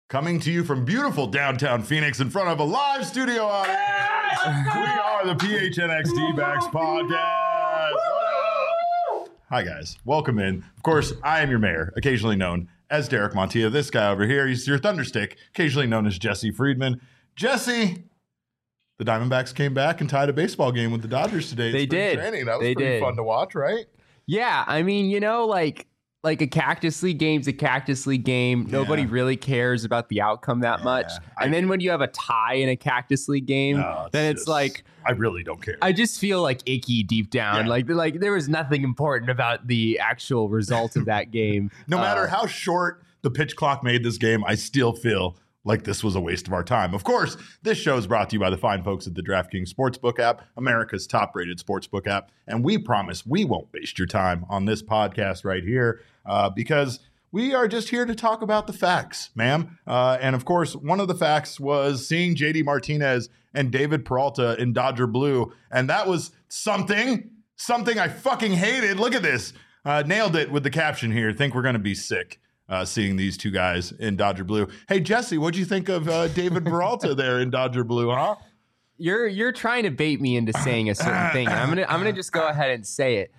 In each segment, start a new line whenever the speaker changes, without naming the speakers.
Coming to you from beautiful downtown Phoenix in front of a live studio audience. We are the PHNX D-Backs podcast. Hi, guys. Welcome in. Of course, I am your mayor, occasionally known as Derek Montilla. This guy over here, he's your thunderstick, occasionally known as Jesse Friedman. Jesse, the Diamondbacks came back and tied a baseball game with the Dodgers today.
They did.
Training. That was pretty fun to watch, right?
Yeah, I mean, like a Cactus League game's a Cactus League game. Nobody really cares about the outcome that much. And then when you have a tie in a Cactus League game, then it's like
I really don't care.
I just feel like icky deep down. Like there was nothing important about the actual result of that game.
No matter how short the pitch clock made this game, I still feel like this was a waste of our time. Of course, this show is brought to you by the fine folks at the DraftKings Sportsbook app, America's top-rated sportsbook app. And we promise we won't waste your time on this podcast right here because we are just here to talk about the facts, ma'am. And of course, one of the facts was seeing JD Martinez and David Peralta in Dodger blue. And that was something I fucking hated. Look at this. Nailed it with the caption here. Think we're going to be sick. Seeing these two guys in Dodger blue. Hey, Jesse, what'd you think of David Peralta there in Dodger blue, huh?
You're trying to bait me into saying a certain thing. And I'm gonna just go ahead and say it.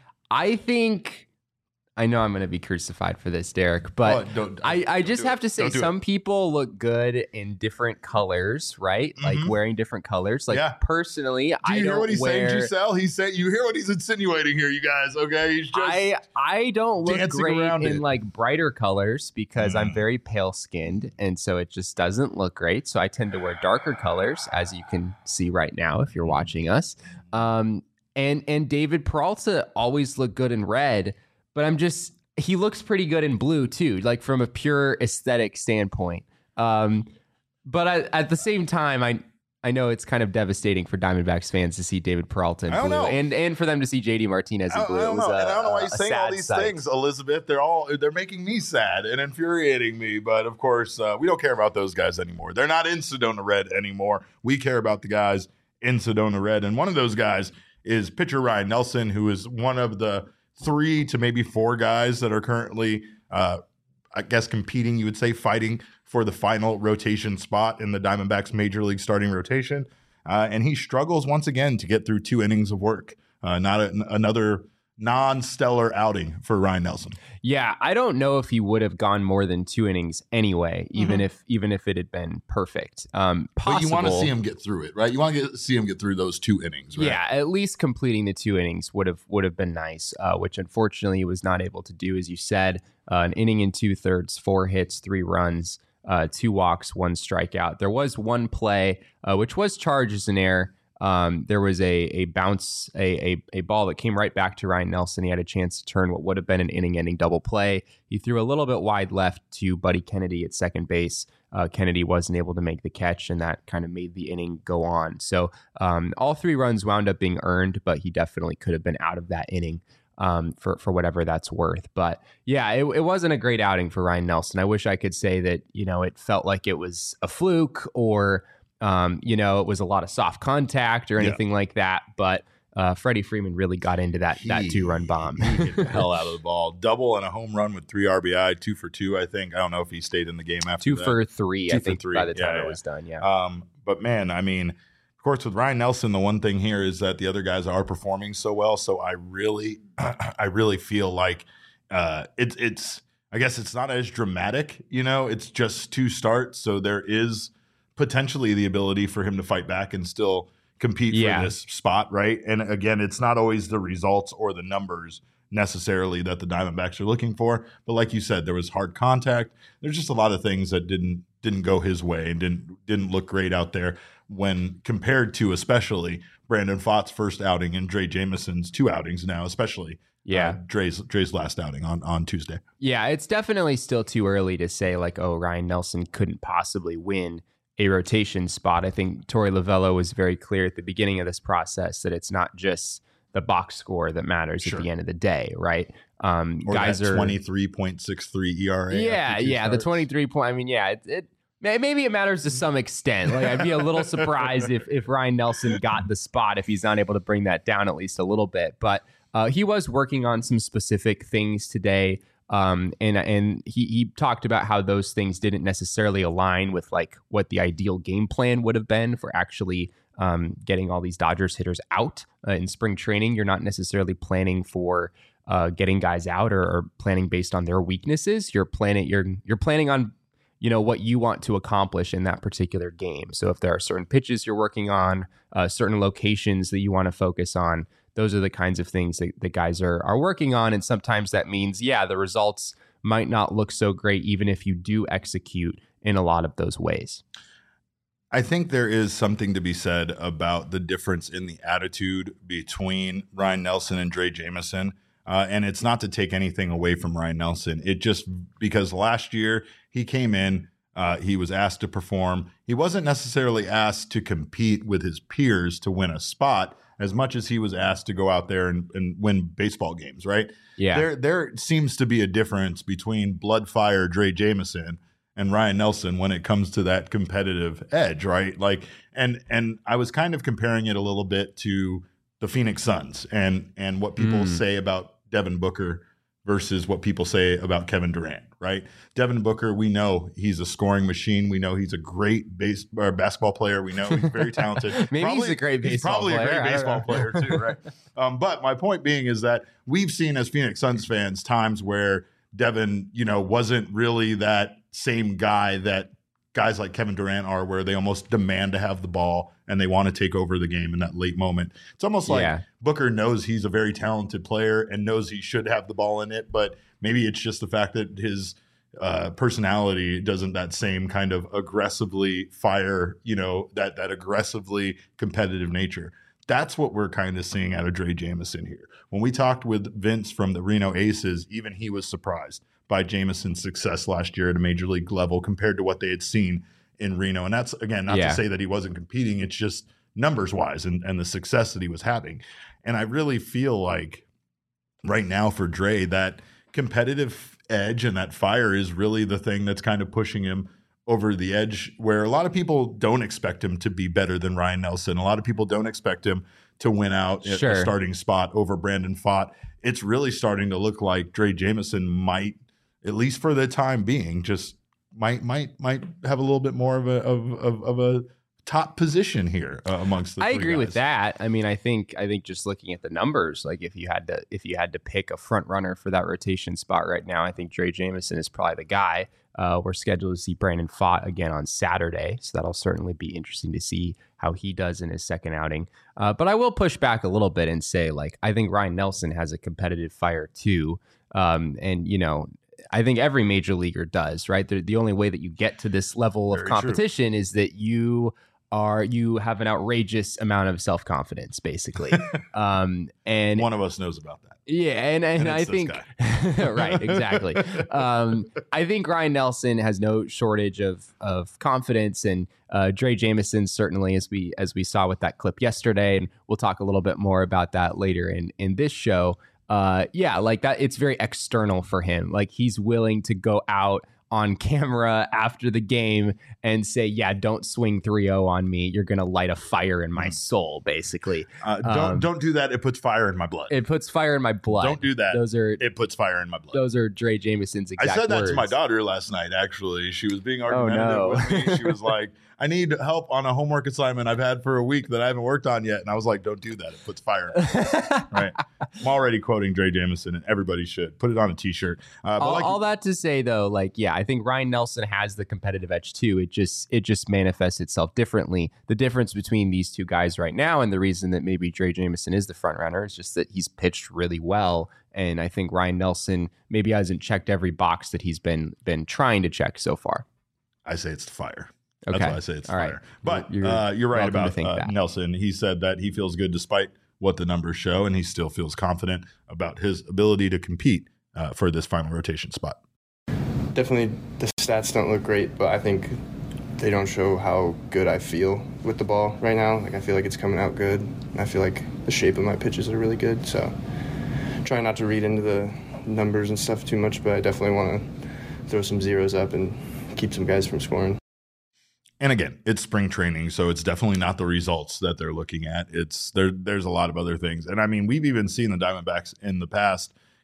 I know I'm going to be crucified for this, Derek, but I just have to say some people look good in different colors, right? Mm-hmm. Like wearing different colors. Like personally,
I don't hear what he's saying, Giselle? You hear what he's insinuating here, you guys, okay? He's just
I don't look great in like brighter colors because I'm very pale skinned, and so it just doesn't look great. So I tend to wear darker colors, as you can see right now if you're watching us. And David Peralta always looked good in red. But he looks pretty good in blue too, like from a pure aesthetic standpoint. But at the same time, I know it's kind of devastating for Diamondbacks fans to see David Peralta in blue and for them to see JD Martinez in blue.
I don't know why he's saying all these things, Elizabeth. They're making me sad and infuriating me. But of course, we don't care about those guys anymore. They're not in Sedona Red anymore. We care about the guys in Sedona Red. And one of those guys is pitcher Ryan Nelson, who is one of the 3 to maybe 4 guys that are currently, I guess, competing, you would say, fighting for the final rotation spot in the Diamondbacks major league starting rotation. And he struggles once again to get through 2 innings of work. Another non-stellar outing for Ryan Nelson.
Yeah, I don't know if he would have gone more than 2 innings anyway, even if it had been perfect.
But you want to see him get through it, right? You want to see him get through those 2 innings, right?
Yeah, at least completing the 2 innings would have been nice, which unfortunately he was not able to do, as you said. An inning and 2/3, 4 hits, 3 runs, 2 walks, 1 strikeout. There was one play, which was charged as an error. There was a bounce, a ball that came right back to Ryan Nelson. He had a chance to turn what would have been an inning-ending double play. He threw a little bit wide left to Buddy Kennedy at second base. Kennedy wasn't able to make the catch, and that kind of made the inning go on. So all 3 runs wound up being earned, but he definitely could have been out of that inning for whatever that's worth. But yeah, it wasn't a great outing for Ryan Nelson. I wish I could say that, it felt like it was a fluke or it was a lot of soft contact or anything like that. But Freddie Freeman really got into that 2-run bomb.
He hit the hell out of the ball. Double and a home run with 3 RBI, 2 for 2, I think. I don't know if he stayed in the game after
2
that.
for 3,
2
I
for
think,
3.
by the time it was done. Yeah.
But man, I mean, of course, with Ryan Nelson, the one thing here is that the other guys are performing so well. So I really feel like it's I guess it's not as dramatic, it's just 2 starts. So there is potentially the ability for him to fight back and still compete for this spot, right? And again, it's not always the results or the numbers necessarily that the Diamondbacks are looking for, but like you said, there was hard contact. There's just a lot of things that didn't go his way and didn't look great out there when compared to especially Brandon Pfaadt's first outing and Drey Jameson's 2 outings now, especially Drey's last outing on Tuesday.
Yeah, it's definitely still too early to say like, oh, Ryan Nelson couldn't possibly win a rotation spot. I think Torey Lovullo was very clear at the beginning of this process that it's not just the box score that matters at the end of the day, right?
Or guys are 23.63 ERA.
Yeah, the 23 point. I mean, it maybe it matters to some extent. Like I'd be a little surprised if Ryan Nelson got the spot if he's not able to bring that down at least a little bit. But he was working on some specific things today. And he talked about how those things didn't necessarily align with like what the ideal game plan would have been for actually getting all these Dodgers hitters out in spring training. You're not necessarily planning for getting guys out or planning based on their weaknesses. You're planning on what you want to accomplish in that particular game. So if there are certain pitches you're working on, certain locations that you want to focus on, those are the kinds of things that guys are working on. And sometimes that means, the results might not look so great, even if you do execute in a lot of those ways.
I think there is something to be said about the difference in the attitude between Ryan Nelson and Drey Jameson. And it's not to take anything away from Ryan Nelson. It just because last year he came in, he was asked to perform. He wasn't necessarily asked to compete with his peers to win a spot as much as he was asked to go out there and win baseball games, right?
Yeah.
There seems to be a difference between blood fire Drey Jameson and Ryan Nelson when it comes to that competitive edge, right? Like, and I was kind of comparing it a little bit to the Phoenix Suns and what people say about Devin Booker versus what people say about Kevin Durant, right? Devin Booker, we know he's a scoring machine. We know he's a great basketball player. We know he's very talented.
He's a great baseball player.
He's probably a great baseball player too, right? But my point being is that we've seen as Phoenix Suns fans times where Devin, wasn't really that same guy that guys like Kevin Durant are, where they almost demand to have the ball and they want to take over the game in that late moment. It's almost like Booker knows he's a very talented player and knows he should have the ball in it, but maybe it's just the fact that his personality doesn't that same kind of aggressively fire, that aggressively competitive nature. That's what we're kind of seeing out of Drey Jameson here. When we talked with Vince from the Reno Aces, even he was surprised by Jameson's success last year at a major league level compared to what they had seen in Reno. And that's, again, not to say that he wasn't competing. It's just numbers wise and the success that he was having. And I really feel like right now for Drey, that competitive edge and that fire is really the thing that's kind of pushing him over the edge, where a lot of people don't expect him to be better than Ryan Nelson. A lot of people don't expect him to win out at the starting spot over Brandon Pfaadt. It's really starting to look like Drey Jameson might, at least for the time being, just might have a little bit more of a top position here amongst the three
I agree
guys.
with that. I mean, I think just looking at the numbers, like if you had to pick a front runner for that rotation spot right now, I think Drey Jameson is probably the guy. We're scheduled to see Brandon Pfaadt again on Saturday, so that'll certainly be interesting to see how he does in his second outing. But I will push back a little bit and say, like, I think Ryan Nelson has a competitive fire too, and I think every major leaguer does, right? The only way that you get to this level of competition is that you have an outrageous amount of self-confidence, basically. And
one of us knows about that.
Yeah, and I think right, exactly. I think Ryan Nelson has no shortage of confidence, and Drey Jameson certainly, as we saw with that clip yesterday, and we'll talk a little bit more about that later in this show. Like that, it's very external for him. Like he's willing to go out on camera after the game and say, don't swing 3-0 on me. You're going to light a fire in my soul, basically.
Don't do that. It puts fire in my blood.
It puts fire in my blood.
Don't do that. It puts fire in my blood.
Those are Drey Jameson's exact words.
I said that to my daughter last night, actually. She was being argumentative with me. She was like, I need help on a homework assignment I've had for a week that I haven't worked on yet. And I was like, don't do that. It puts fire in my blood. Right. I'm already quoting Drey Jameson, and everybody should. Put it on a T-shirt.
All that to say, though, I think Ryan Nelson has the competitive edge, too. It just manifests itself differently. The difference between these two guys right now, and the reason that maybe Drey Jameson is the front runner, is just that he's pitched really well. And I think Ryan Nelson maybe hasn't checked every box that he's been trying to check so far.
I say it's the fire.
Okay.
That's why I say it's the fire.
Right.
But you're right about Nelson. He said that he feels good despite what the numbers show, and he still feels confident about his ability to compete for this final rotation spot.
Definitely the stats don't look great, but I think they don't show how good I feel with the ball right now. Like I feel like it's coming out good, and I feel like the shape of my pitches are really good. So try not to read into the numbers and stuff too much, but I definitely want to throw some zeros up and keep some guys from scoring.
And again, it's spring training, so it's definitely not the results that they're looking at. There's a lot of other things. And I mean, we've even seen the Diamondbacks in the past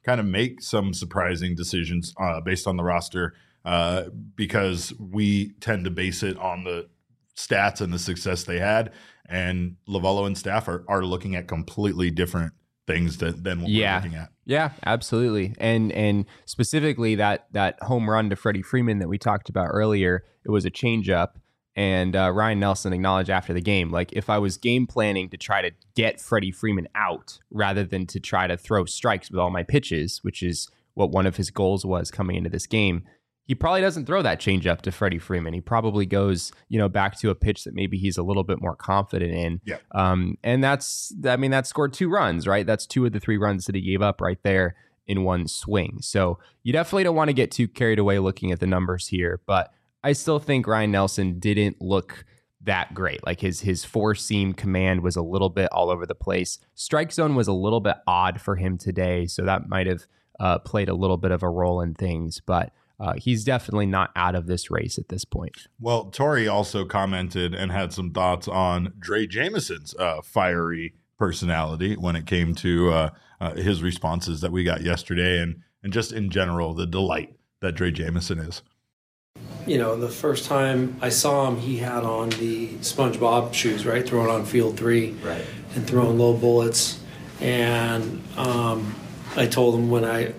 kind of make some surprising decisions based on the roster because we tend to base it on the stats and the success they had. And Lovello and staff are looking at completely different things than what we're looking at.
Yeah, absolutely. And specifically that home run to Freddie Freeman that we talked about earlier, it was a changeup. And Ryan Nelson acknowledged after the game, like, if I was game planning to try to get Freddie Freeman out rather than to try to throw strikes with all my pitches, which is what one of his goals was coming into this game, he probably doesn't throw that changeup to Freddie Freeman. He probably goes, back to a pitch that maybe he's a little bit more confident in.
Yeah.
And that scored 2 runs, right? That's 2 of the 3 runs that he gave up right there in one swing. So you definitely don't want to get too carried away looking at the numbers here, but I still think Ryan Nelson didn't look that great. Like his 4-seam command was a little bit all over the place. Strike zone was a little bit odd for him today, so that might have played a little bit of a role in things, but he's definitely not out of this race at this point.
Well, Tori also commented and had some thoughts on Drey Jameson's fiery personality when it came to his responses that we got yesterday, and just in general, the delight that Drey Jameson is.
The first time I saw him, he had on the SpongeBob shoes, right? Throwing on field 3,
right,
and throwing low bullets. And I told him when I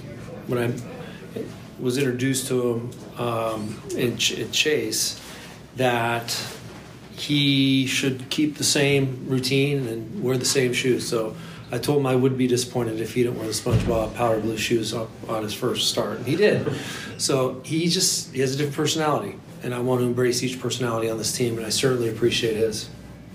was introduced to him in Chase that he should keep the same routine and wear the same shoes. So I told him I would be disappointed if he didn't wear the SpongeBob Powder Blue shoes on his first start. And he did. So he has a different personality, and I want to embrace each personality on this team, and I certainly appreciate his.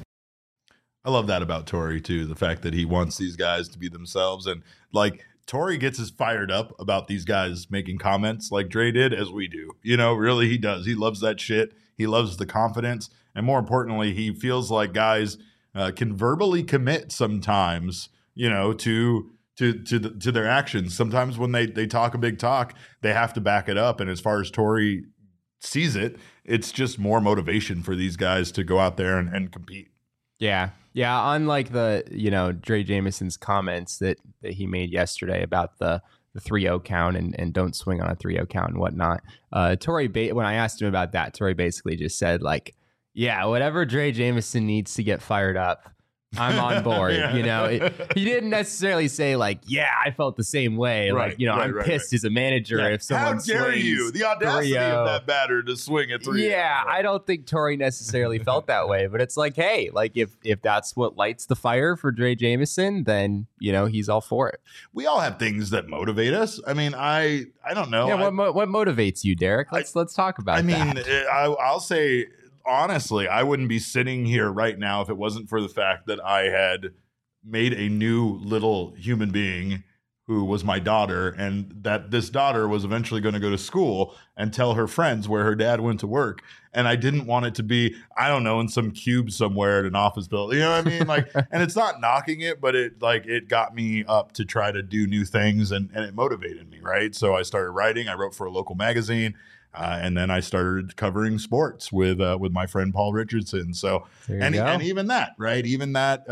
I love that about Tori too, the fact that he wants these guys to be themselves. And like, Tori gets as fired up about these guys making comments like Drey did as we do. Really he does. He loves that shit. He loves the confidence. And more importantly, he feels like guys can verbally commit sometimes, to their actions. Sometimes when they talk a big talk, they have to back it up. And as far as Tori sees it, it's just more motivation for these guys to go out there and compete.
Yeah. Yeah. Unlike the, Drey Jameson's comments that he made yesterday about the 3-0 count and don't swing on a 3-0 count and whatnot. Tori, when I asked him about that, Tori basically just said, like, yeah, whatever Drey Jameson needs to get fired up, I'm on board. He didn't necessarily say like, yeah, I felt the same way.
Right,
like, I'm pissed as a manager if someone swings. How dare you?
The audacity of that batter to swing at 3-0.
Yeah, I don't think Tori necessarily felt that way, but it's like, hey, like if that's what lights the fire for Drey Jameson, then, he's all for it.
We all have things that motivate us. I mean, I don't know.
Yeah, what motivates you, Derek? Let's talk about that.
I'll say, honestly, I wouldn't be sitting here right now if it wasn't for the fact that I had made a new little human being who was my daughter, and that this daughter was eventually going to go to school and tell her friends where her dad went to work. And I didn't want it to be, I don't know, in some cube somewhere at an office building. You know what I mean? Like, and it's not knocking it, but it got me up to try to do new things, and it motivated me, right? So I started writing. I wrote for a local magazine. And then I started covering sports with my friend Paul Richardson. So, and even that, right? Even that,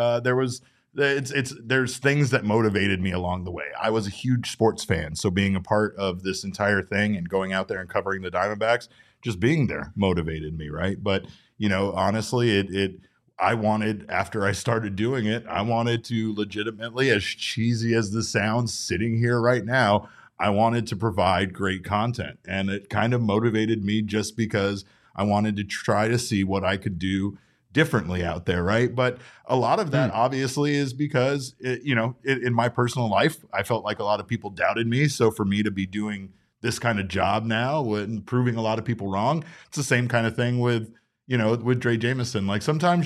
there's things that motivated me along the way. I was a huge sports fan, so being a part of this entire thing and going out there and covering the Diamondbacks, just being there motivated me, right? But honestly, I wanted, after I started doing it, I wanted to legitimately, as cheesy as this sounds, sitting here right now, I wanted to provide great content, and it kind of motivated me just because I wanted to try to see what I could do differently out there, right? But a lot of that obviously is because, in my personal life, I felt like a lot of people doubted me. So for me to be doing this kind of job now and proving a lot of people wrong, it's the same kind of thing with Drey Jameson. Like sometimes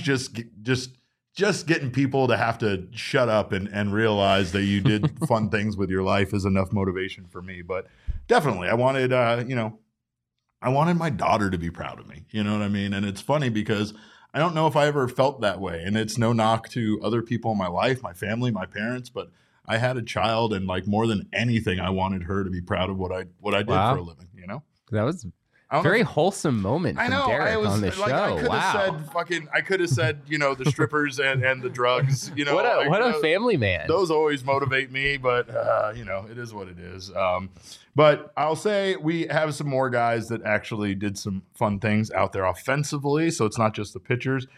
just getting people to have to shut up and realize that you did fun things with your life is enough motivation for me. But definitely, I wanted, I wanted my daughter to be proud of me. You know what I mean? And it's funny because I don't know if I ever felt that way. And it's no knock to other people in my life, my family, my parents, but I had a child, and like more than anything, I wanted her to be proud of what I did for a living,
That was Very wholesome moment from Derek on the show.
I could have said, the strippers and the drugs.
What a family man.
Those always motivate me, but it is what it is. But I'll say we have some more guys that actually did some fun things out there offensively. So it's not just the pitchers.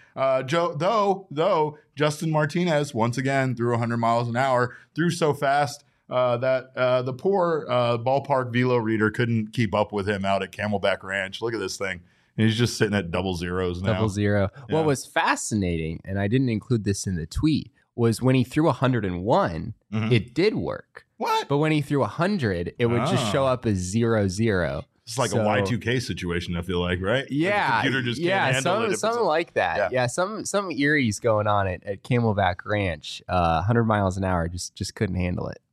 Though Justin Martinez once again threw 100 miles an hour, threw so fast that the poor ballpark velo reader couldn't keep up with him out at Camelback Ranch. Look at this thing. And he's just sitting at double zeros now.
Double zero.
Yeah.
What was fascinating, and I didn't include this in the tweet, was when he threw 101, it did work.
What?
But when he threw 100, it would just show up as 0-0.
It's like a Y2K situation, I feel like, right?
Yeah.
Like the computer just can't handle it.
Something like that. Yeah, some Erie's going on at Camelback Ranch. 100 miles an hour, just couldn't handle it.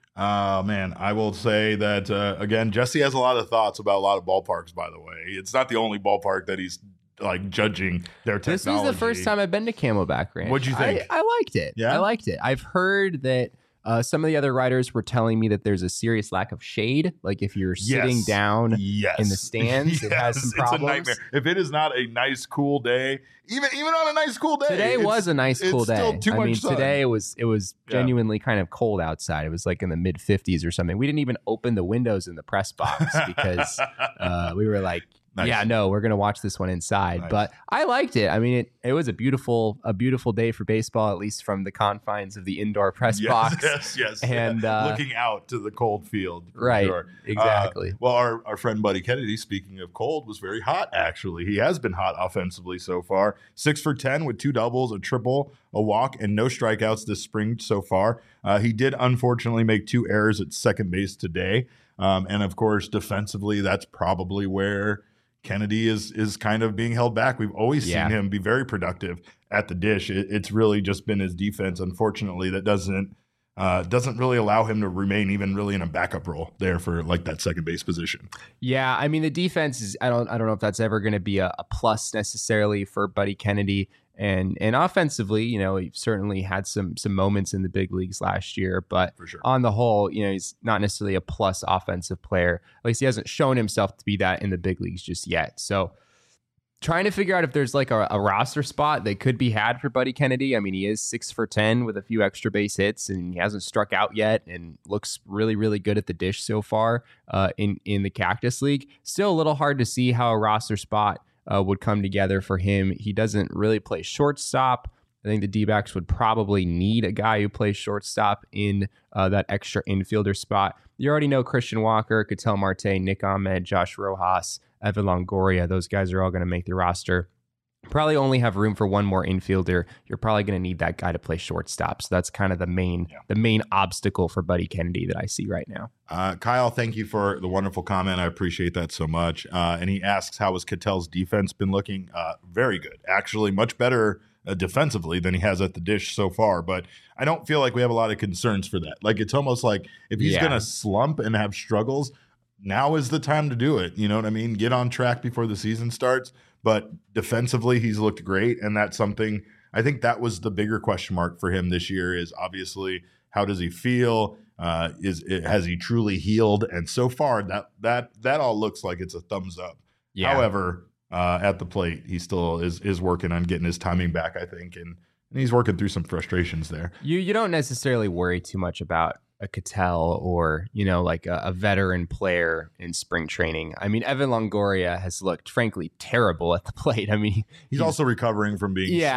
Oh, man. I will say that, again, Jesse has a lot of thoughts about a lot of ballparks, by the way. It's not the only ballpark that he's like judging their technology.
This was the first time I've been to Camelback Ranch.
What'd you think?
I liked it.
Yeah?
I liked it. I've heard that some of the other writers were telling me that there's a serious lack of shade. Like if you're sitting down in the stands, it has some problems.
It's a nightmare. If it is not a nice, cool day, even on a nice, cool day.
Today was a nice, cool day.
Still too much sun.
Today it was genuinely kind of cold outside. It was like in the mid 50s or something. We didn't even open the windows in the press box because we were like,
nice.
Yeah, no, we're gonna watch this one inside.
Nice.
But I liked it. I mean, it was a beautiful day for baseball, at least from the confines of the indoor press box.
Yes.
And
looking out to the cold field.
Right.
Sure.
Exactly.
Well, our friend Buddy Kennedy, speaking of cold, was very hot. Actually, he has been hot offensively so far. 6 for 10 with 2 doubles, a triple, a walk, and no strikeouts this spring so far. He did unfortunately make 2 errors at second base today, and of course, defensively, that's probably where Kennedy is kind of being held back. We've always seen him be very productive at the dish. It's really just been his defense, unfortunately, that doesn't really allow him to remain even really in a backup role there for like that second base position.
Yeah, I mean the defense is I don't know if that's ever going to be a plus necessarily for Buddy Kennedy. And offensively, he certainly had some moments in the big leagues last year, but
for sure.
On the whole, he's not necessarily a plus offensive player. At least he hasn't shown himself to be that in the big leagues just yet. So trying to figure out if there's like a roster spot that could be had for Buddy Kennedy. I mean, he is 6 for 10 with a few extra base hits, and he hasn't struck out yet and looks really, really good at the dish so far in the Cactus League. Still a little hard to see how a roster spot would come together for him. He doesn't really play shortstop. I think the D-backs would probably need a guy who plays shortstop in that extra infielder spot. You already know Christian Walker, Ketel Marte, Nick Ahmed, Josh Rojas, Evan Longoria. Those guys are all going to make the roster. Probably only have room for one more infielder. You're probably going to need that guy to play shortstop. So that's kind of the main obstacle for Buddy Kennedy that I see right now.
Kyle, thank you for the wonderful comment. I appreciate that so much. And he asks, how has Ketel's defense been looking? Very good. Actually, much better defensively than he has at the dish so far. But I don't feel like we have a lot of concerns for that. Like, it's almost like if he's going to slump and have struggles, now is the time to do it. You know what I mean? Get on track before the season starts. But defensively, he's looked great. And that's something, I think that was the bigger question mark for him this year is obviously, how does he feel? Has he truly healed? And so far, that all looks like it's a thumbs up. Yeah. However, at the plate, he still is working on getting his timing back, I think. And he's working through some frustrations there.
You don't necessarily worry too much about a Ketel or, like a veteran player in spring training. I mean, Evan Longoria has looked, frankly, terrible at the plate. I mean,
he's also recovering from being
he's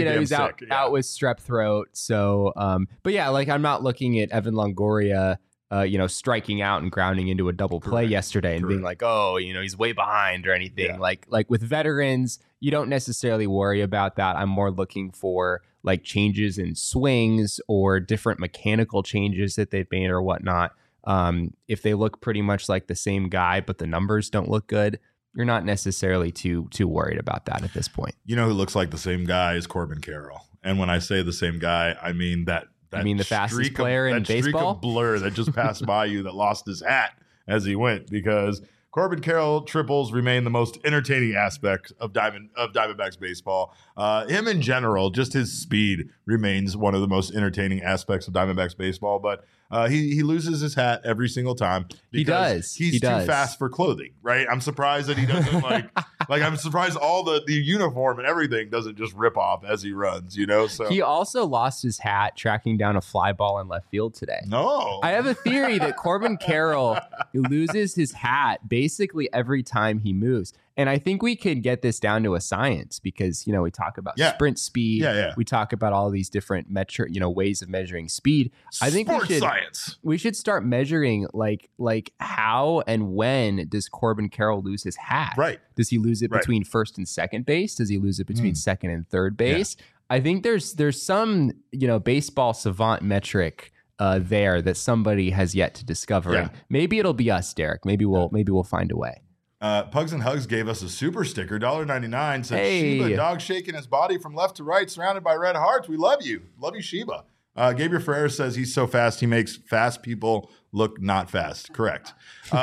out with strep throat. So, but yeah, like I'm not looking at Evan Longoria, striking out and grounding into a double play yesterday and being like, oh, he's way behind or anything. Yeah. Like with veterans, you don't necessarily worry about that. I'm more looking for like changes in swings or different mechanical changes that they've made or whatnot. If they look pretty much like the same guy, but the numbers don't look good, you're not necessarily too worried about that at this point.
You know who looks like the same guy is Corbin Carroll. And when I say the same guy, I mean that
you mean the fastest player in baseball?
Streak of blur that just passed by you that lost his hat as he went, because Corbin Carroll triples remain the most entertaining aspect of Diamondbacks baseball. Him in general, just his speed remains one of the most entertaining aspects of Diamondbacks baseball. But He loses his hat every single time.
He does.
He's too fast for clothing, right? I'm surprised that he doesn't like I'm surprised all the uniform and everything doesn't just rip off as he runs, So
He also lost his hat tracking down a fly ball in left field today.
No.
I have a theory that Corbin Carroll loses his hat basically every time he moves. And I think we could get this down to a science because, we talk about sprint speed.
Yeah.
We talk about all these different ways of measuring speed. I think we should start measuring like how and when does Corbin Carroll lose his hat?
Right.
Does he lose it between first and second base? Does he lose it between second and third base? Yeah. I think there's some, baseball savant metric there that somebody has yet to discover. Yeah. Maybe it'll be us, Derek. Maybe we'll find a way.
Pugs and Hugs gave us a super sticker, $1.99. Said Sheba, dog shaking his body from left to right, surrounded by red hearts. We love you. Love you, Sheba. Gabriel Ferrer says he's so fast, he makes fast people look not fast. Correct.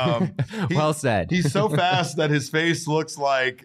Well said.
He's so fast that his face looks like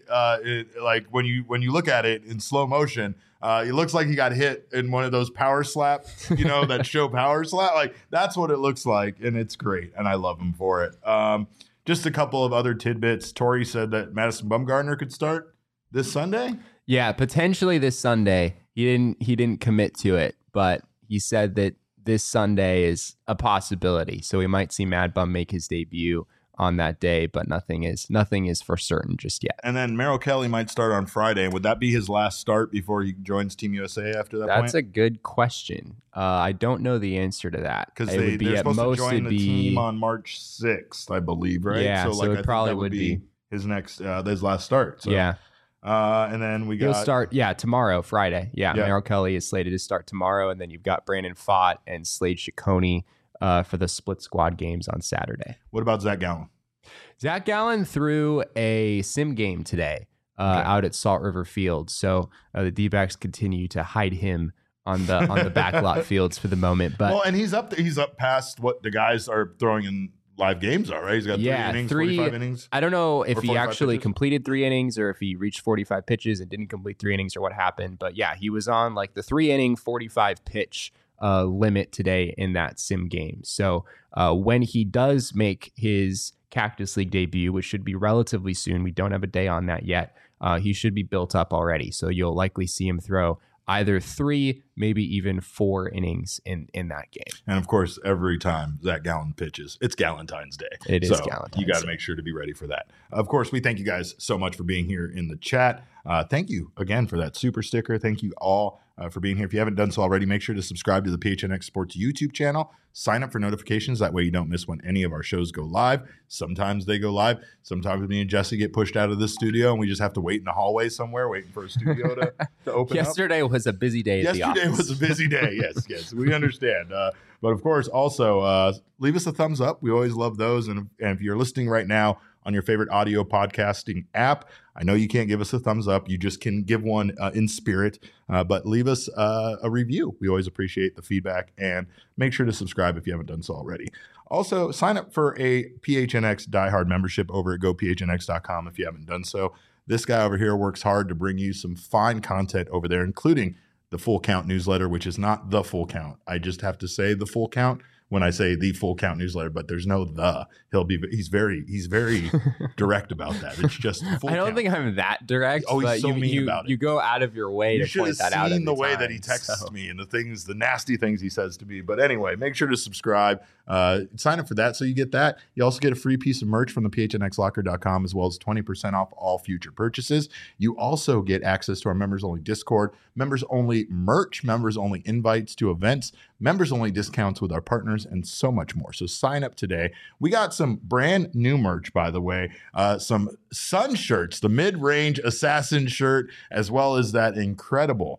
when you look at it in slow motion, it looks like he got hit in one of those power slaps, that show power slap. Like that's what it looks like, and it's great, and I love him for it. Just a couple of other tidbits. Tori said that Madison Bumgarner could start this Sunday.
Yeah, potentially this Sunday. He didn't commit to it, but he said that this Sunday is a possibility. So we might see Mad Bum make his debut on that day, but nothing is for certain just yet.
And then Merrill Kelly might start on Friday. Would that be his last start before he joins Team USA after that point?
That's a good question. I don't know the answer to that.
Because they're supposed to join the team on March 6th, I believe, right?
Yeah, so it probably would be
his last start. So.
Yeah.
And then he'll
start, tomorrow, Friday. Yeah, Merrill Kelly is slated to start tomorrow, and then you've got Brandon Pfaadt and Slade Ciccone for the split squad games on Saturday.
What about Zach Gallen?
Zach Gallen threw a sim game today out at Salt River Field, so the D-backs continue to hide him on the backlot fields for the moment. But
and he's up past what the guys are throwing in live games are, right? He's got 3 innings, 45 innings.
I don't know if he actually
pitches?
completed 3 innings or if he reached 45 pitches and didn't complete 3 innings or what happened. But yeah, he was on like the 3 inning, 45 pitch limit today in that sim game. So when he does make his Cactus League debut, which should be relatively soon, we don't have a day on that yet, he should be built up already. So you'll likely see him throw either 3, maybe even 4 innings in that game.
And of course, every time Zach Gallen pitches, it's Galentine's Day.
It is Galentine's Day.
You got to make sure to be ready for that. Of course, we thank you guys so much for being here in the chat. Thank you again for that super sticker. Thank you all for being here. If you haven't done so already, make sure to subscribe to the PHNX Sports YouTube channel. Sign up for notifications. That way you don't miss when any of our shows go live. Sometimes they go live. Sometimes me and Jesse get pushed out of the studio and we just have to wait in the hallway somewhere waiting for a studio to open
Yesterday
up.
Was a busy day at the office.
Yesterday was a busy day. Yes, we understand. But of course, also leave us a thumbs up. We always love those. And if you're listening right now on your favorite audio podcasting app, I know you can't give us a thumbs up. You just can give one in spirit, but leave us a review. We always appreciate the feedback, and make sure to subscribe if you haven't done so already. Also, sign up for a PHNX diehard membership over at gophnx.com if you haven't done so. This guy over here works hard to bring you some fine content over there, including the Full Count newsletter, which is not the Full Count. I just have to say the Full Count when I say the Full Count newsletter, but there's no the. He's very direct about that. It's just full
I don't
count.
think I'm that direct.
Oh, he's
but
so mean about it.
You go out of your way to point that out.
You should have seen the way that he texts me and the nasty things he says to me. But anyway, make sure to subscribe. Sign up for that so you get that. You also get a free piece of merch from the phnxlocker.com, as well as 20% off all future purchases. You also get access to our members-only Discord, members-only merch, members-only invites to events, members-only discounts with our partners, and so much more. So sign up today. We got some brand new merch, by the way, some Sun shirts, the mid-range assassin shirt, as well as that incredible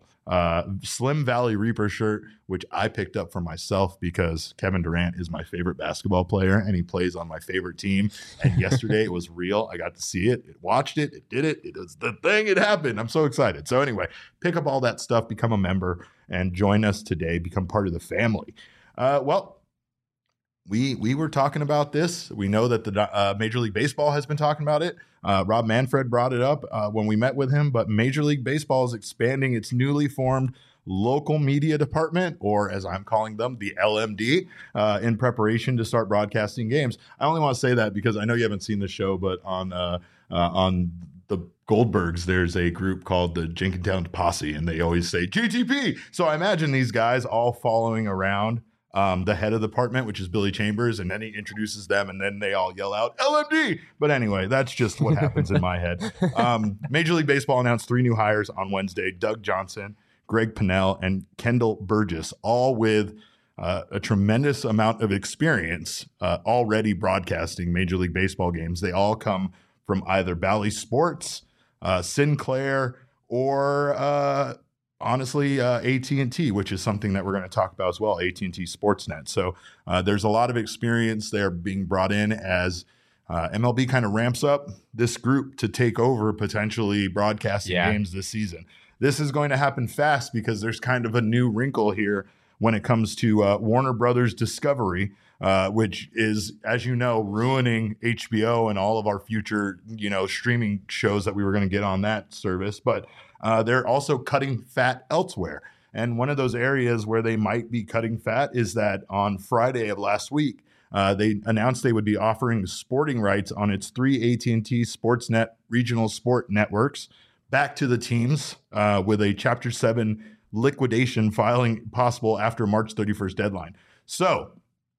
Slim Valley Reaper shirt, which I picked up for myself because Kevin Durant is my favorite basketball player and he plays on my favorite team. And yesterday it was real. I got to see it, watched it, it did it. It was the thing. It happened. I'm so excited. So anyway, pick up all that stuff, become a member, and join us today. Become part of the family. We were talking about this. We know that the Major League Baseball has been talking about it. Rob Manfred brought it up when we met with him, but Major League Baseball is expanding its newly formed local media department, or as I'm calling them, the LMD, in preparation to start broadcasting games. I only want to say that because I know you haven't seen the show, but on the Goldbergs, there's a group called the Jenkintown Posse, and they always say GTP. So I imagine these guys all following around the head of the department, which is Billy Chambers, and then he introduces them, and then they all yell out LMD. But anyway, that's just what happens in my head. Major League Baseball announced 3 new hires on Wednesday: Doug Johnson, Greg Pennell, and Kendall Burgess, all with a tremendous amount of experience already broadcasting Major League Baseball games. They all come from either Bally Sports, Sinclair, or honestly, AT&T, which is something that we're going to talk about as well, AT&T Sportsnet. So there's a lot of experience there being brought in as MLB kind of ramps up this group to take over potentially broadcasting games this season. This is going to happen fast because there's kind of a new wrinkle here when it comes to Warner Brothers Discovery, which is, as you know, ruining HBO and all of our future, streaming shows that we were going to get on that service. But they're also cutting fat elsewhere. And one of those areas where they might be cutting fat is that on Friday of last week, they announced they would be offering sporting rights on its 3 AT&T Sportsnet regional sport networks back to the teams with a Chapter 7 liquidation filing possible after March 31st deadline. So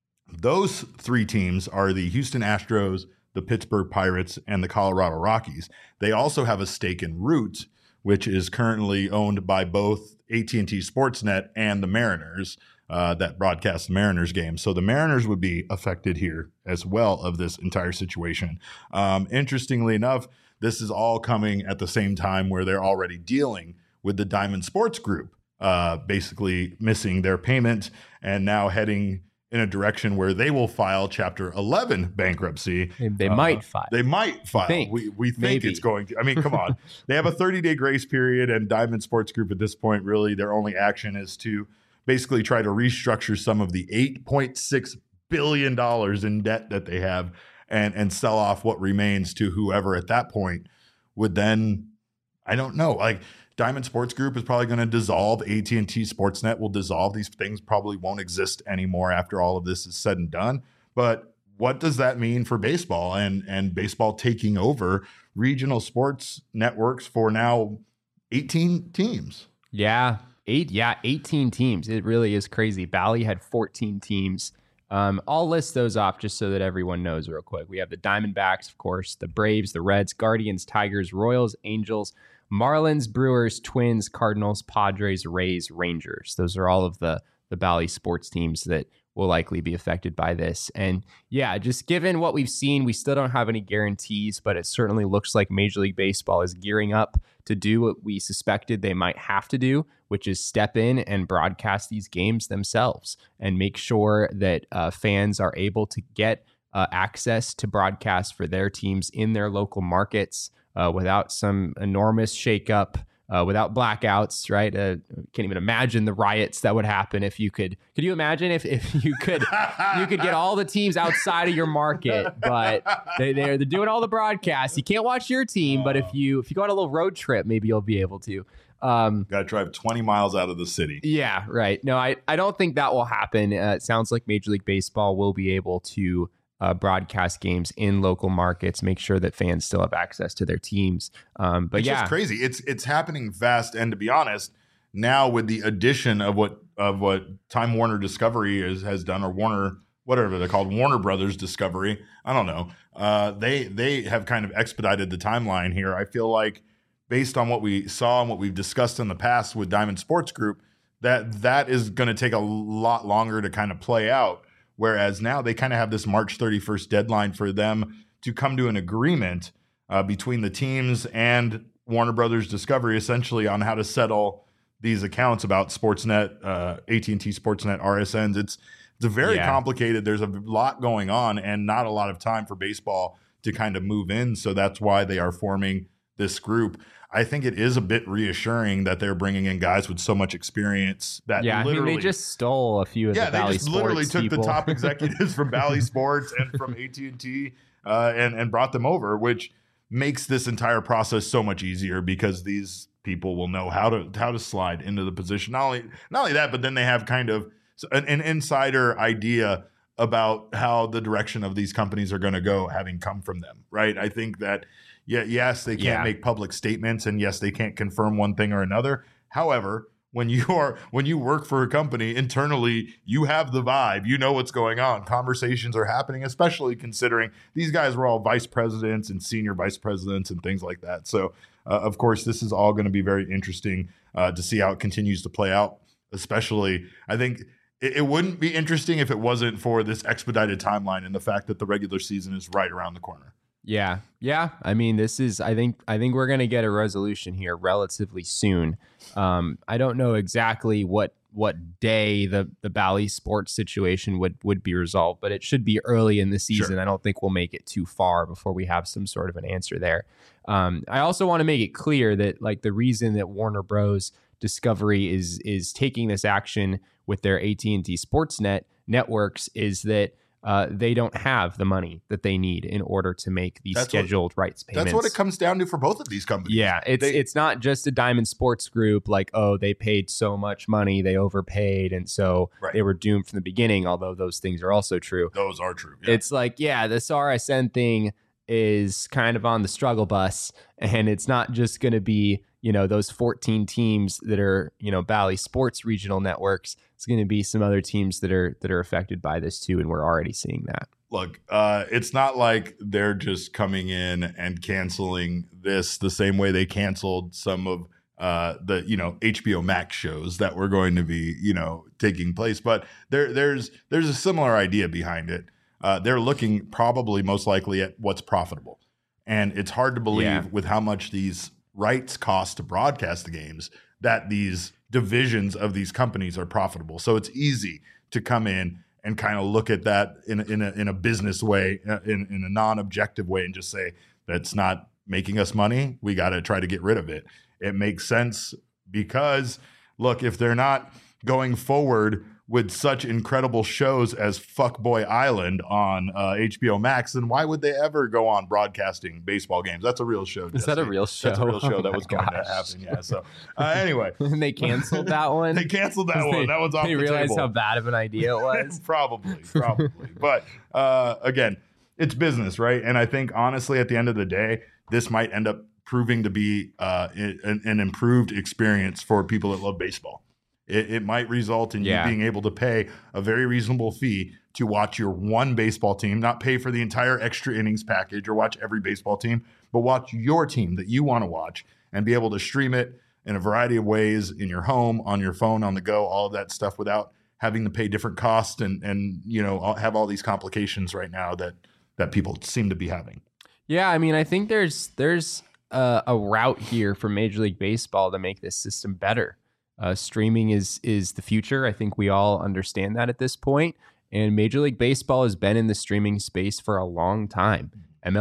those 3 teams are the Houston Astros, the Pittsburgh Pirates, and the Colorado Rockies. They also have a stake in Root, which is currently owned by both AT&T Sportsnet and the Mariners that broadcast the Mariners games. So the Mariners would be affected here as well of this entire situation. Interestingly enough, this is all coming at the same time where they're already dealing with the Diamond Sports Group, basically missing their payment and now heading in a direction where they will file Chapter 11 bankruptcy.
They might file.
They might file. We think maybe. It's going to. I mean, come on. They have a 30-day grace period, and Diamond Sports Group at this point, really, their only action is to basically try to restructure some of the $8.6 billion in debt that they have and sell off what remains to whoever at that point would then, I don't know, like Diamond Sports Group is probably going to dissolve. AT&T Sportsnet will dissolve. These things probably won't exist anymore after all of this is said and done. But what does that mean for baseball and baseball taking over regional sports networks for now 18 teams?
Yeah, 18 teams. It really is crazy. Bally had 14 teams. I'll list those off just so that everyone knows real quick. We have the Diamondbacks, of course, the Braves, the Reds, Guardians, Tigers, Royals, Angels, Marlins, Brewers, Twins, Cardinals, Padres, Rays, Rangers. Those are all of the Bally sports teams that will likely be affected by this. And yeah, just given what we've seen, we still don't have any guarantees, but it certainly looks like Major League Baseball is gearing up to do what we suspected they might have to do, which is step in and broadcast these games themselves and make sure that fans are able to get access to broadcast for their teams in their local markets without some enormous shakeup, without blackouts, right? Can't even imagine the riots that would happen if you could. Could you imagine if you could get all the teams outside of your market, but they're doing all the broadcasts. You can't watch your team, but if you go on a little road trip, maybe you'll be able to.
Got to drive 20 miles out of the city.
Yeah, right. No, I don't think that will happen. It sounds like Major League Baseball will be able to broadcast games in local markets, make sure that fans still have access to their teams. But
it's just crazy. It's happening fast. And to be honest, now with the addition of what Time Warner Discovery has done, or Warner, whatever they're called, Warner Brothers Discovery, I don't know. They have kind of expedited the timeline here. I feel like based on what we saw and what we've discussed in the past with Diamond Sports Group, that is going to take a lot longer to kind of play out. Whereas now they kind of have this March 31st deadline for them to come to an agreement between the teams and Warner Brothers Discovery, essentially on how to settle these accounts about Sportsnet, AT&T Sportsnet, RSNs. It's very complicated. There's a lot going on and not a lot of time for baseball to kind of move in. So that's why they are forming this group. I think it is a bit reassuring that they're bringing in guys with so much experience that literally
they just stole a few of the Bally Sports
they just literally took
people.
The top executives from Bally Sports and from AT&T and brought them over, which makes this entire process so much easier because these people will know how to slide into the position. Not only that, but then they have kind of an insider idea about how the direction of these companies are going to go, having come from them, right? I think that, yes, they can't make public statements, and yes, they can't confirm one thing or another. However, when you work for a company internally, you have the vibe, you know what's going on. Conversations are happening, especially considering these guys were all vice presidents and senior vice presidents and things like that. So, of course, this is all going to be very interesting to see how it continues to play out. Especially, I think it wouldn't be interesting if it wasn't for this expedited timeline and the fact that the regular season is right around the corner.
Yeah. I mean, this is. I think we're going to get a resolution here relatively soon. I don't know exactly what day the Bally Sports situation would be resolved, but it should be early in the season. Sure. I don't think we'll make it too far before we have some sort of an answer there. I also want to make it clear that like the reason that Warner Bros. Discovery is taking this action with their AT&T Sportsnet networks is that they don't have the money that they need in order to make these scheduled rights payments.
That's what it comes down to for both of these companies.
Yeah, it's not just a Diamond Sports Group like, oh, they paid so much money, they overpaid, and so they were doomed from the beginning, although those things are also true.
Those are true. Yeah.
It's like, the RSN thing is kind of on the struggle bus, and it's not just going to be, those 14 teams that are, Bally Sports regional networks. It's going to be some other teams that are affected by this too, and we're already seeing that.
Look, it's not like they're just coming in and canceling this the same way they canceled some of the HBO Max shows that were going to be taking place, but there's a similar idea behind it. They're looking probably most likely at what's profitable, and it's hard to believe with how much these rights cost to broadcast the games that these divisions of these companies are profitable. So it's easy to come in and kind of look at that in a business way, in a non-objective way, and just say that's not making us money. We got to try to get rid of it. It makes sense because, look, if they're not going forward with such incredible shows as Fuckboy Island on HBO Max, then why would they ever go on broadcasting baseball games? That's a real show.
Is that a real show?
That's a real show that was going to happen. Yeah. So anyway,
and they canceled that one.
They canceled that one. That one's off the table.
They realized how bad of an idea it was.
Probably. But again, it's business, right? And I think honestly, at the end of the day, this might end up proving to be an improved experience for people that love baseball. It might result in you being able to pay a very reasonable fee to watch your one baseball team, not pay for the entire extra innings package or watch every baseball team, but watch your team that you want to watch and be able to stream it in a variety of ways in your home, on your phone, on the go, all of that stuff without having to pay different costs and have all these complications right now that people seem to be having.
Yeah, I mean, I think there's a route here for Major League Baseball to make this system better. Streaming is the future. I think we all understand that at this point. And Major League Baseball has been in the streaming space for a long time.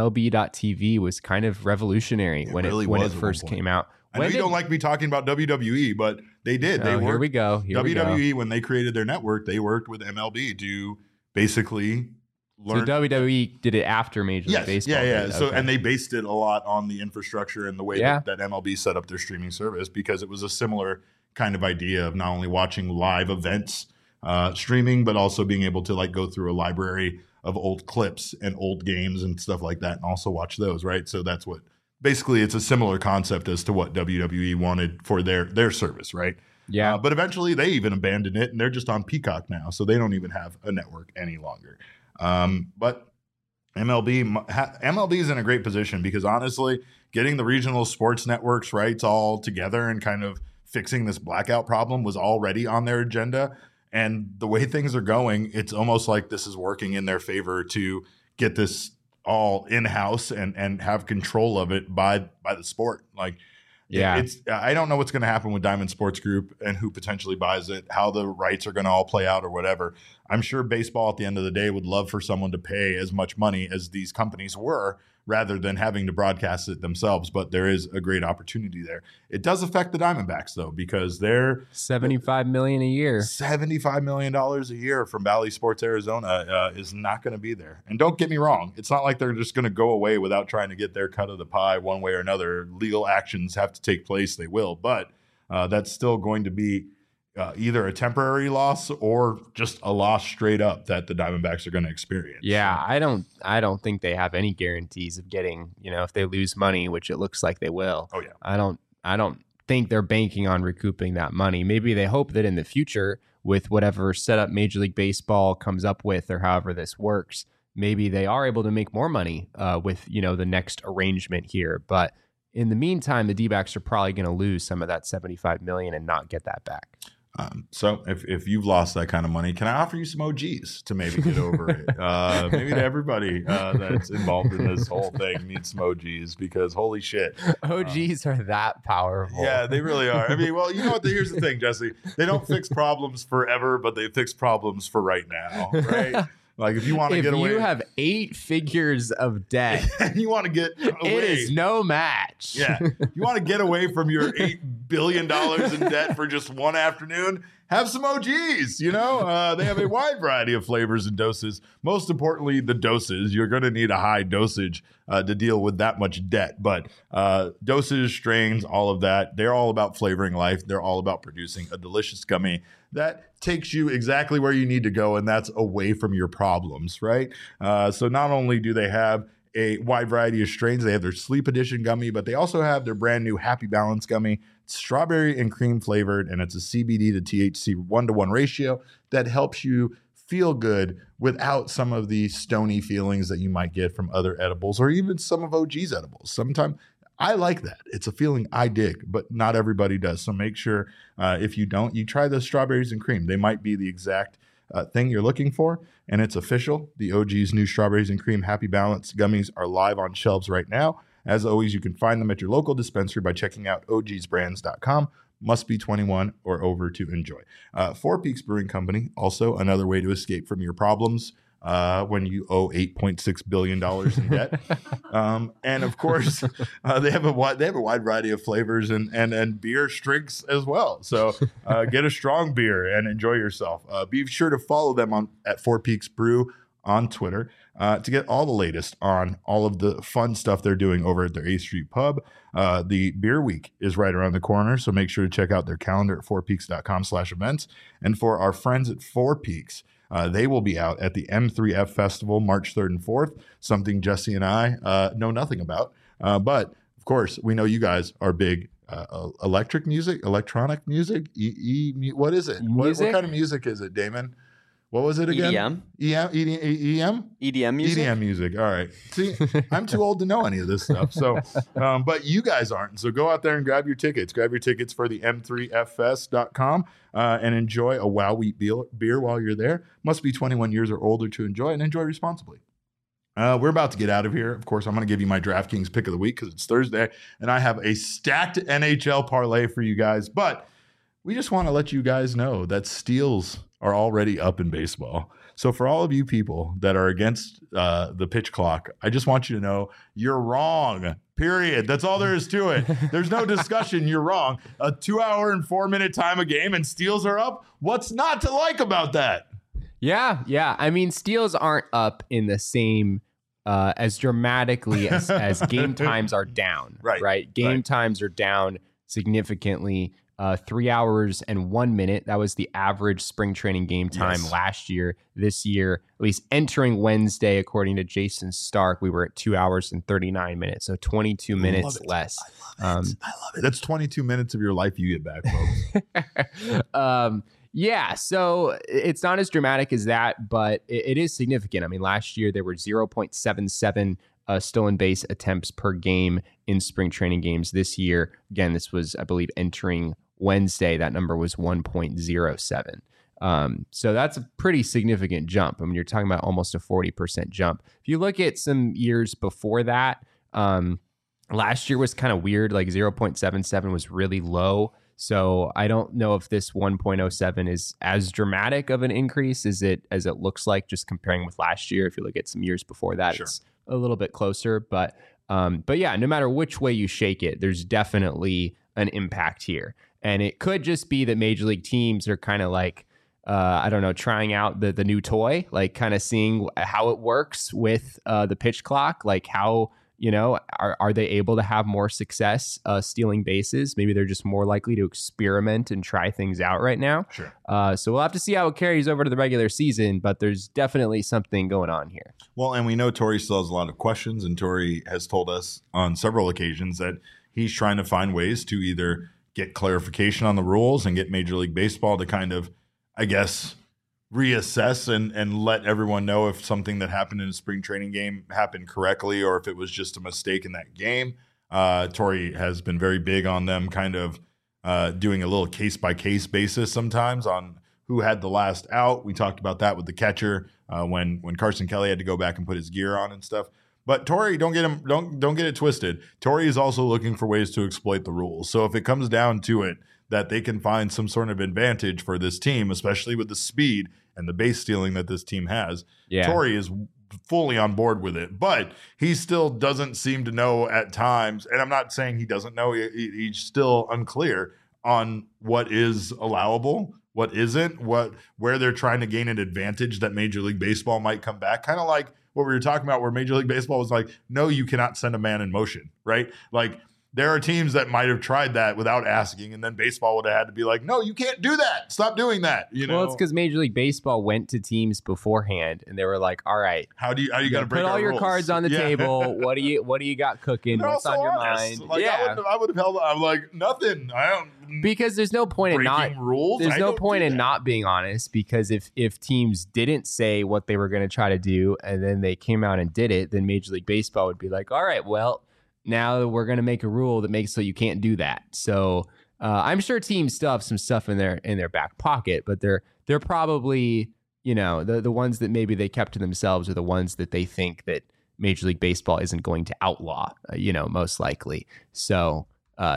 MLB.TV was kind of revolutionary when it first came out.
I know you don't like me talking about WWE, but they did.
Here we go.
WWE, when they created their network, they worked with MLB to basically learn.
So WWE did it after Major League Baseball.
Yeah. So and they based it a lot on the infrastructure and the way that MLB set up their streaming service, because it was a similar kind of idea of not only watching live events streaming, but also being able to like go through a library of old clips and old games and stuff like that and also watch those, right? So that's what basically it's a similar concept as to what WWE wanted for their service, right?
Yeah.
But eventually they even abandoned it and they're just on Peacock now, so they don't even have a network any longer. But MLB is in a great position because honestly, getting the regional sports networks rights all together and kind of fixing this blackout problem was already on their agenda. And the way things are going, it's almost like this is working in their favor to get this all in-house and have control of it by the sport. Like, I don't know what's going to happen with Diamond Sports Group and who potentially buys it, how the rights are going to all play out or whatever. I'm sure baseball at the end of the day would love for someone to pay as much money as these companies were rather than having to broadcast it themselves. But there is a great opportunity there. It does affect the Diamondbacks, though, because they're
$75 million a year.
$75 million a year from Bally Sports Arizona is not going to be there. And don't get me wrong, it's not like they're just going to go away without trying to get their cut of the pie one way or another. Legal actions have to take place. They will. But that's still going to be either a temporary loss or just a loss straight up that the Diamondbacks are going to experience.
Yeah, I don't think they have any guarantees of getting, if they lose money, which it looks like they will.
Oh yeah.
I don't think they're banking on recouping that money. Maybe they hope that in the future, with whatever setup Major League Baseball comes up with or however this works, maybe they are able to make more money with, the next arrangement here. But in the meantime, the D-backs are probably going to lose some of that $75 million and not get that back.
So if you've lost that kind of money, can I offer you some OGs to maybe get over it? Maybe to everybody that's involved in this whole thing needs some OGs, because holy shit.
OGs are that powerful.
Yeah, they really are. I mean, well, you know what? Here's the thing, Jesse. They don't fix problems forever, but they fix problems for right now, right? Like if you want to get away,
if you have 8 figures of debt,
and you want to get away,
it is no match.
Yeah, you want to get away from your $8 billion in debt for just one afternoon. Have some OGs. They have a wide variety of flavors and doses. Most importantly, the doses. You're going to need a high dosage to deal with that much debt. But doses, strains, all of that, they're all about flavoring life. They're all about producing a delicious gummy that takes you exactly where you need to go, and that's away from your problems, right? So not only do they have a wide variety of strains, they have their Sleep Edition gummy, but they also have their brand new Happy Balance gummy. It's strawberry and cream flavored, and it's a CBD to THC 1-to-1 ratio that helps you feel good without some of the stony feelings that you might get from other edibles or even some of OG's edibles. Sometimes I like that. It's a feeling I dig, but not everybody does. So make sure if you don't, you try the strawberries and cream. They might be the exact thing you're looking for, and it's official. The OG's new Strawberries and Cream Happy Balance gummies are live on shelves right now. As always, you can find them at your local dispensary by checking out ogsbrands.com. Must be 21 or over to enjoy. Four Peaks Brewing Company, also another way to escape from your problems when you owe $8.6 billion in debt. And of course, they have a wide variety of flavors and beer drinks as well. So get a strong beer and enjoy yourself. Be sure to follow them at Four Peaks Brew on Twitter to get all the latest on all of the fun stuff they're doing over at their 8th Street Pub. The Beer Week is right around the corner, so make sure to check out their calendar at fourpeaks.com/events. And for our friends at Four Peaks, they will be out at the M3F Festival March 3rd and 4th, something Jesse and I know nothing about. But, of course, we know you guys are big electronic music. What is it? What kind of music is it, Damon? What was it again? EDM music? EDM music. All right. See, I'm too old to know any of this stuff. So, but you guys aren't. So go out there and grab your tickets. Grab your tickets for the m3ffest.com and enjoy a Wow Wheat beer while you're there. Must be 21 years or older to enjoy, and enjoy responsibly. We're about to get out of here. Of course, I'm going to give you my DraftKings pick of the week because it's Thursday, and I have a stacked NHL parlay for you guys. But we just want to let you guys know that steals are already up in baseball. So for all of you people that are against the pitch clock, I just want you to know you're wrong, period. That's all there is to it. There's no discussion. You're wrong. A 2-hour and 4-minute time a game and steals are up. What's not to like about that?
Yeah. I mean, steals aren't up in the same as dramatically as game times are down. Right. Game times are down significantly. 3 hours and 1 minute. That was the average spring training game time last year. This year, at least entering Wednesday, according to Jason Stark, we were at 2 hours and 39 minutes. So 22 minutes less.
I love it. That's 22 minutes of your life you get back, folks.
Yeah, so it's not as dramatic as that, but it is significant. I mean, last year there were 0.77 stolen base attempts per game in spring training games. This year, again, this was, I believe, entering Wednesday, that number was 1.07. So that's a pretty significant jump. I mean, you're talking about almost a 40% jump. If you look at some years before that, last year was kind of weird, like 0.77 was really low. So I don't know if this 1.07 is as dramatic of an increase as it looks like, just comparing with last year. If you look at some years before that, it's a little bit closer. But yeah, no matter which way you shake it, there's definitely an impact here. And it could just be that major league teams are kind of like, I don't know, trying out the new toy, like kind of seeing how it works with the pitch clock, like how, are they able to have more success stealing bases? Maybe they're just more likely to experiment and try things out right now.
Sure.
So we'll have to see how it carries over to the regular season, but there's definitely something going on here.
Well, and we know Torey still has a lot of questions, and Torey has told us on several occasions that he's trying to find ways to either get clarification on the rules and get Major League Baseball to kind of, I guess, reassess and let everyone know if something that happened in a spring training game happened correctly or if it was just a mistake in that game. Torey has been very big on them kind of doing a little case-by-case basis sometimes on who had the last out. We talked about that with the catcher when Carson Kelly had to go back and put his gear on and stuff. But Torey, don't get it twisted. Torey is also looking for ways to exploit the rules. So if it comes down to it, that they can find some sort of advantage for this team, especially with the speed and the base stealing that this team has. Yeah. Torey is fully on board with it, but he still doesn't seem to know at times. And I'm not saying he doesn't know. He's still unclear on what is allowable, what isn't, where they're trying to gain an advantage that Major League Baseball might come back. Kind of like what we were talking about where Major League Baseball was like, no, you cannot send a man in motion, right? Like, there are teams that might have tried that without asking, and then baseball would have had to be like, no, you can't do that. Stop doing that.
Well, it's because Major League Baseball went to teams beforehand, and they were like, all right,
how do you got to break
put all your
rules?
Cards on the table. What do you got cooking? What's on your mind?
Like, I would have held. I'm like, nothing. I don't.
Because there's no point in not
rules.
There's no point in not being honest. Because if teams didn't say what they were going to try to do, and then they came out and did it, then Major League Baseball would be like, all right, well, now we're going to make a rule that makes so you can't do that. So I'm sure teams still have some stuff in their back pocket, but they're probably, the ones that maybe they kept to themselves are the ones that they think that Major League Baseball isn't going to outlaw, most likely. So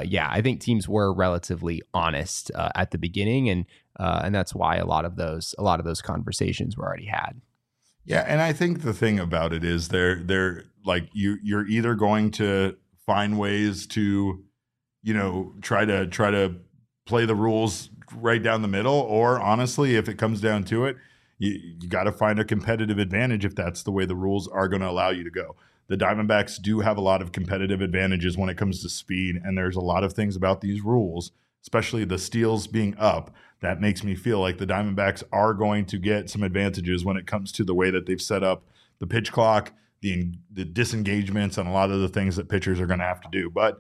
I think teams were relatively honest at the beginning, and that's why a lot of those conversations were already had.
Yeah, and I think the thing about it is they're like you're either going to find ways to, try to play the rules right down the middle, or honestly, if it comes down to it, you got to find a competitive advantage if that's the way the rules are going to allow you to go. The Diamondbacks do have a lot of competitive advantages when it comes to speed, and there's a lot of things about these rules, especially the steals being up, that makes me feel like the Diamondbacks are going to get some advantages when it comes to the way that they've set up the pitch clock, the disengagements, and a lot of the things that pitchers are going to have to do. But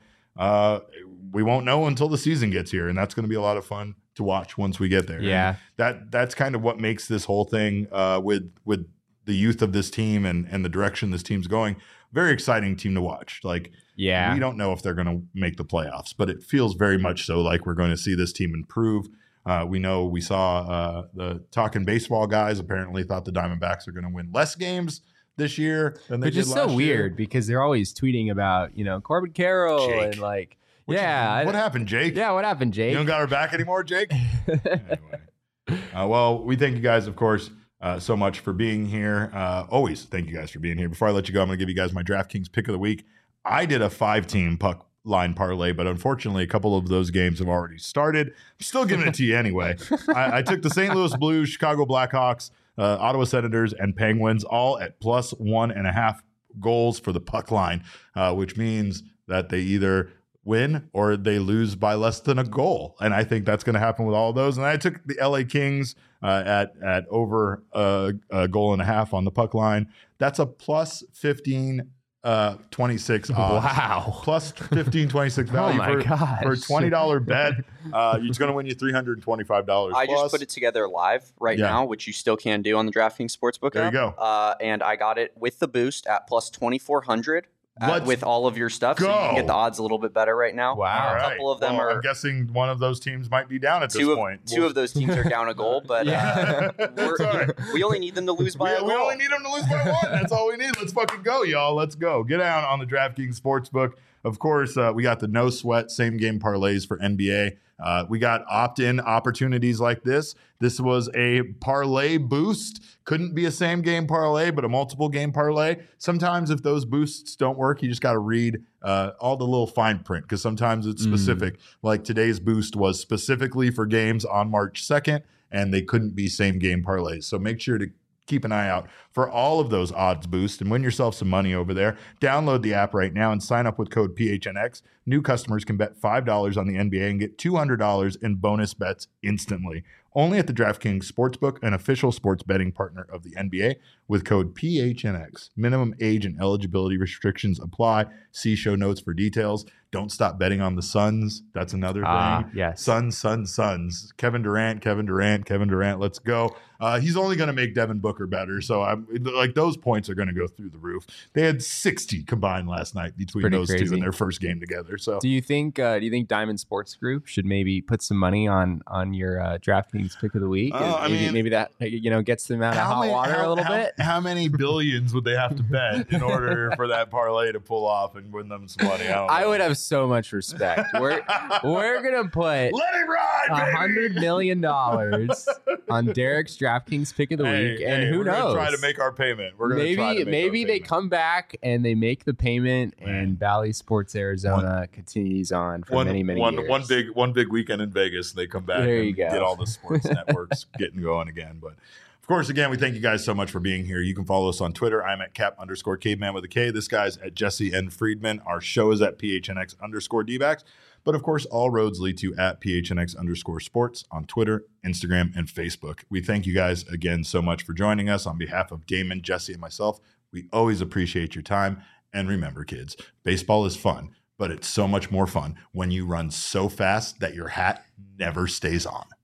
we won't know until the season gets here, and that's going to be a lot of fun to watch once we get there.
Yeah,
and that's kind of what makes this whole thing with the youth of this team and the direction this team's going. Very exciting team to watch. Like, we don't know if they're going to make the playoffs, but it feels very much so like we're going to see this team improve. We saw the Talking Baseball guys apparently thought the Diamondbacks are going to win less games this year than they did last year. Which is so weird
because they're always tweeting about, Corbin Carroll
Jake.
And like,
what happened, Jake?
Yeah, what happened, Jake?
You don't got our back anymore, Jake? Anyway. Well, we thank you guys, of course, so much for being here. Always thank you guys for being here. Before I let you go, I'm going to give you guys my DraftKings pick of the week. I did a 5-team puck line parlay, but unfortunately a couple of those games have already started. I'm still giving it to you anyway. I took the St. Louis Blues, Chicago Blackhawks, Ottawa Senators, and Penguins all at plus 1.5 goals for the puck line, which means that they either win or they lose by less than a goal. And I think that's going to happen with all of those. And I took the LA Kings at over a goal and a half on the puck line. That's a plus 26 odds.
Wow.
Plus 26 value for a $20 bet. It's going to win you $325.
I just put it together live now, which you still can do on the DraftKings Sportsbook
app. There you go.
And I got it with the boost at plus 2,400. With all of your stuff, so you can get the odds a little bit better right now.
Wow.
A couple of them are.
I'm guessing one of those teams might be down at this point.
Two of those teams are down a goal, but we only need them to lose by a goal.
We only need them to lose by one. That's all we need. Let's fucking go, y'all. Let's go. Get down on the DraftKings Sportsbook. Of course, we got the no sweat same game parlays for NBA. We got opt-in opportunities like this. This was a parlay boost. Couldn't be a same game parlay, but a multiple game parlay. Sometimes if those boosts don't work, you just got to read all the little fine print because sometimes it's specific. Like today's boost was specifically for games on March 2nd, and they couldn't be same game parlays. So make sure to keep an eye out for all of those odds boosts and win yourself some money over there. Download the app right now and sign up with code PHNX. New customers can bet $5 on the NBA and get $200 in bonus bets instantly. Only at the DraftKings Sportsbook, an official sports betting partner of the NBA, with code PHNX. Minimum age and eligibility restrictions apply. See show notes for details. Don't stop betting on the Suns. That's another thing.
Yes.
Suns. Kevin Durant. Let's go. He's only going to make Devin Booker better. So I'm like, those points are going to go through the roof. They had 60 combined last night between those two in their first game together. So
do you think Diamond Sports Group should maybe put some money on your DraftKings pick of the week? Maybe that gets them out of hot water a little bit.
How many billions would they have to bet in order for that parlay to pull off and win them some money?
I would have so much respect. We're gonna put
let it ride,
$100 million on Derek's DraftKings pick of the week, and who knows?
Try to make our payment. We're
gonna maybe they come back and they make the payment, and Bally Sports Arizona continues on for many years.
One big weekend in Vegas, they come back and get all the sports networks getting going again. But of course, again, we thank you guys so much for being here. You can follow us on Twitter. I'm at Cap_Caveman with a K. This guy's at Jesse N. Friedman. Our show is at PHNX_DBacks. But of course, all roads lead to at PHNX_sports on Twitter, Instagram, and Facebook. We thank you guys again so much for joining us. On behalf of Damon, Jesse, and myself, we always appreciate your time. And remember, kids, baseball is fun, but it's so much more fun when you run so fast that your hat never stays on.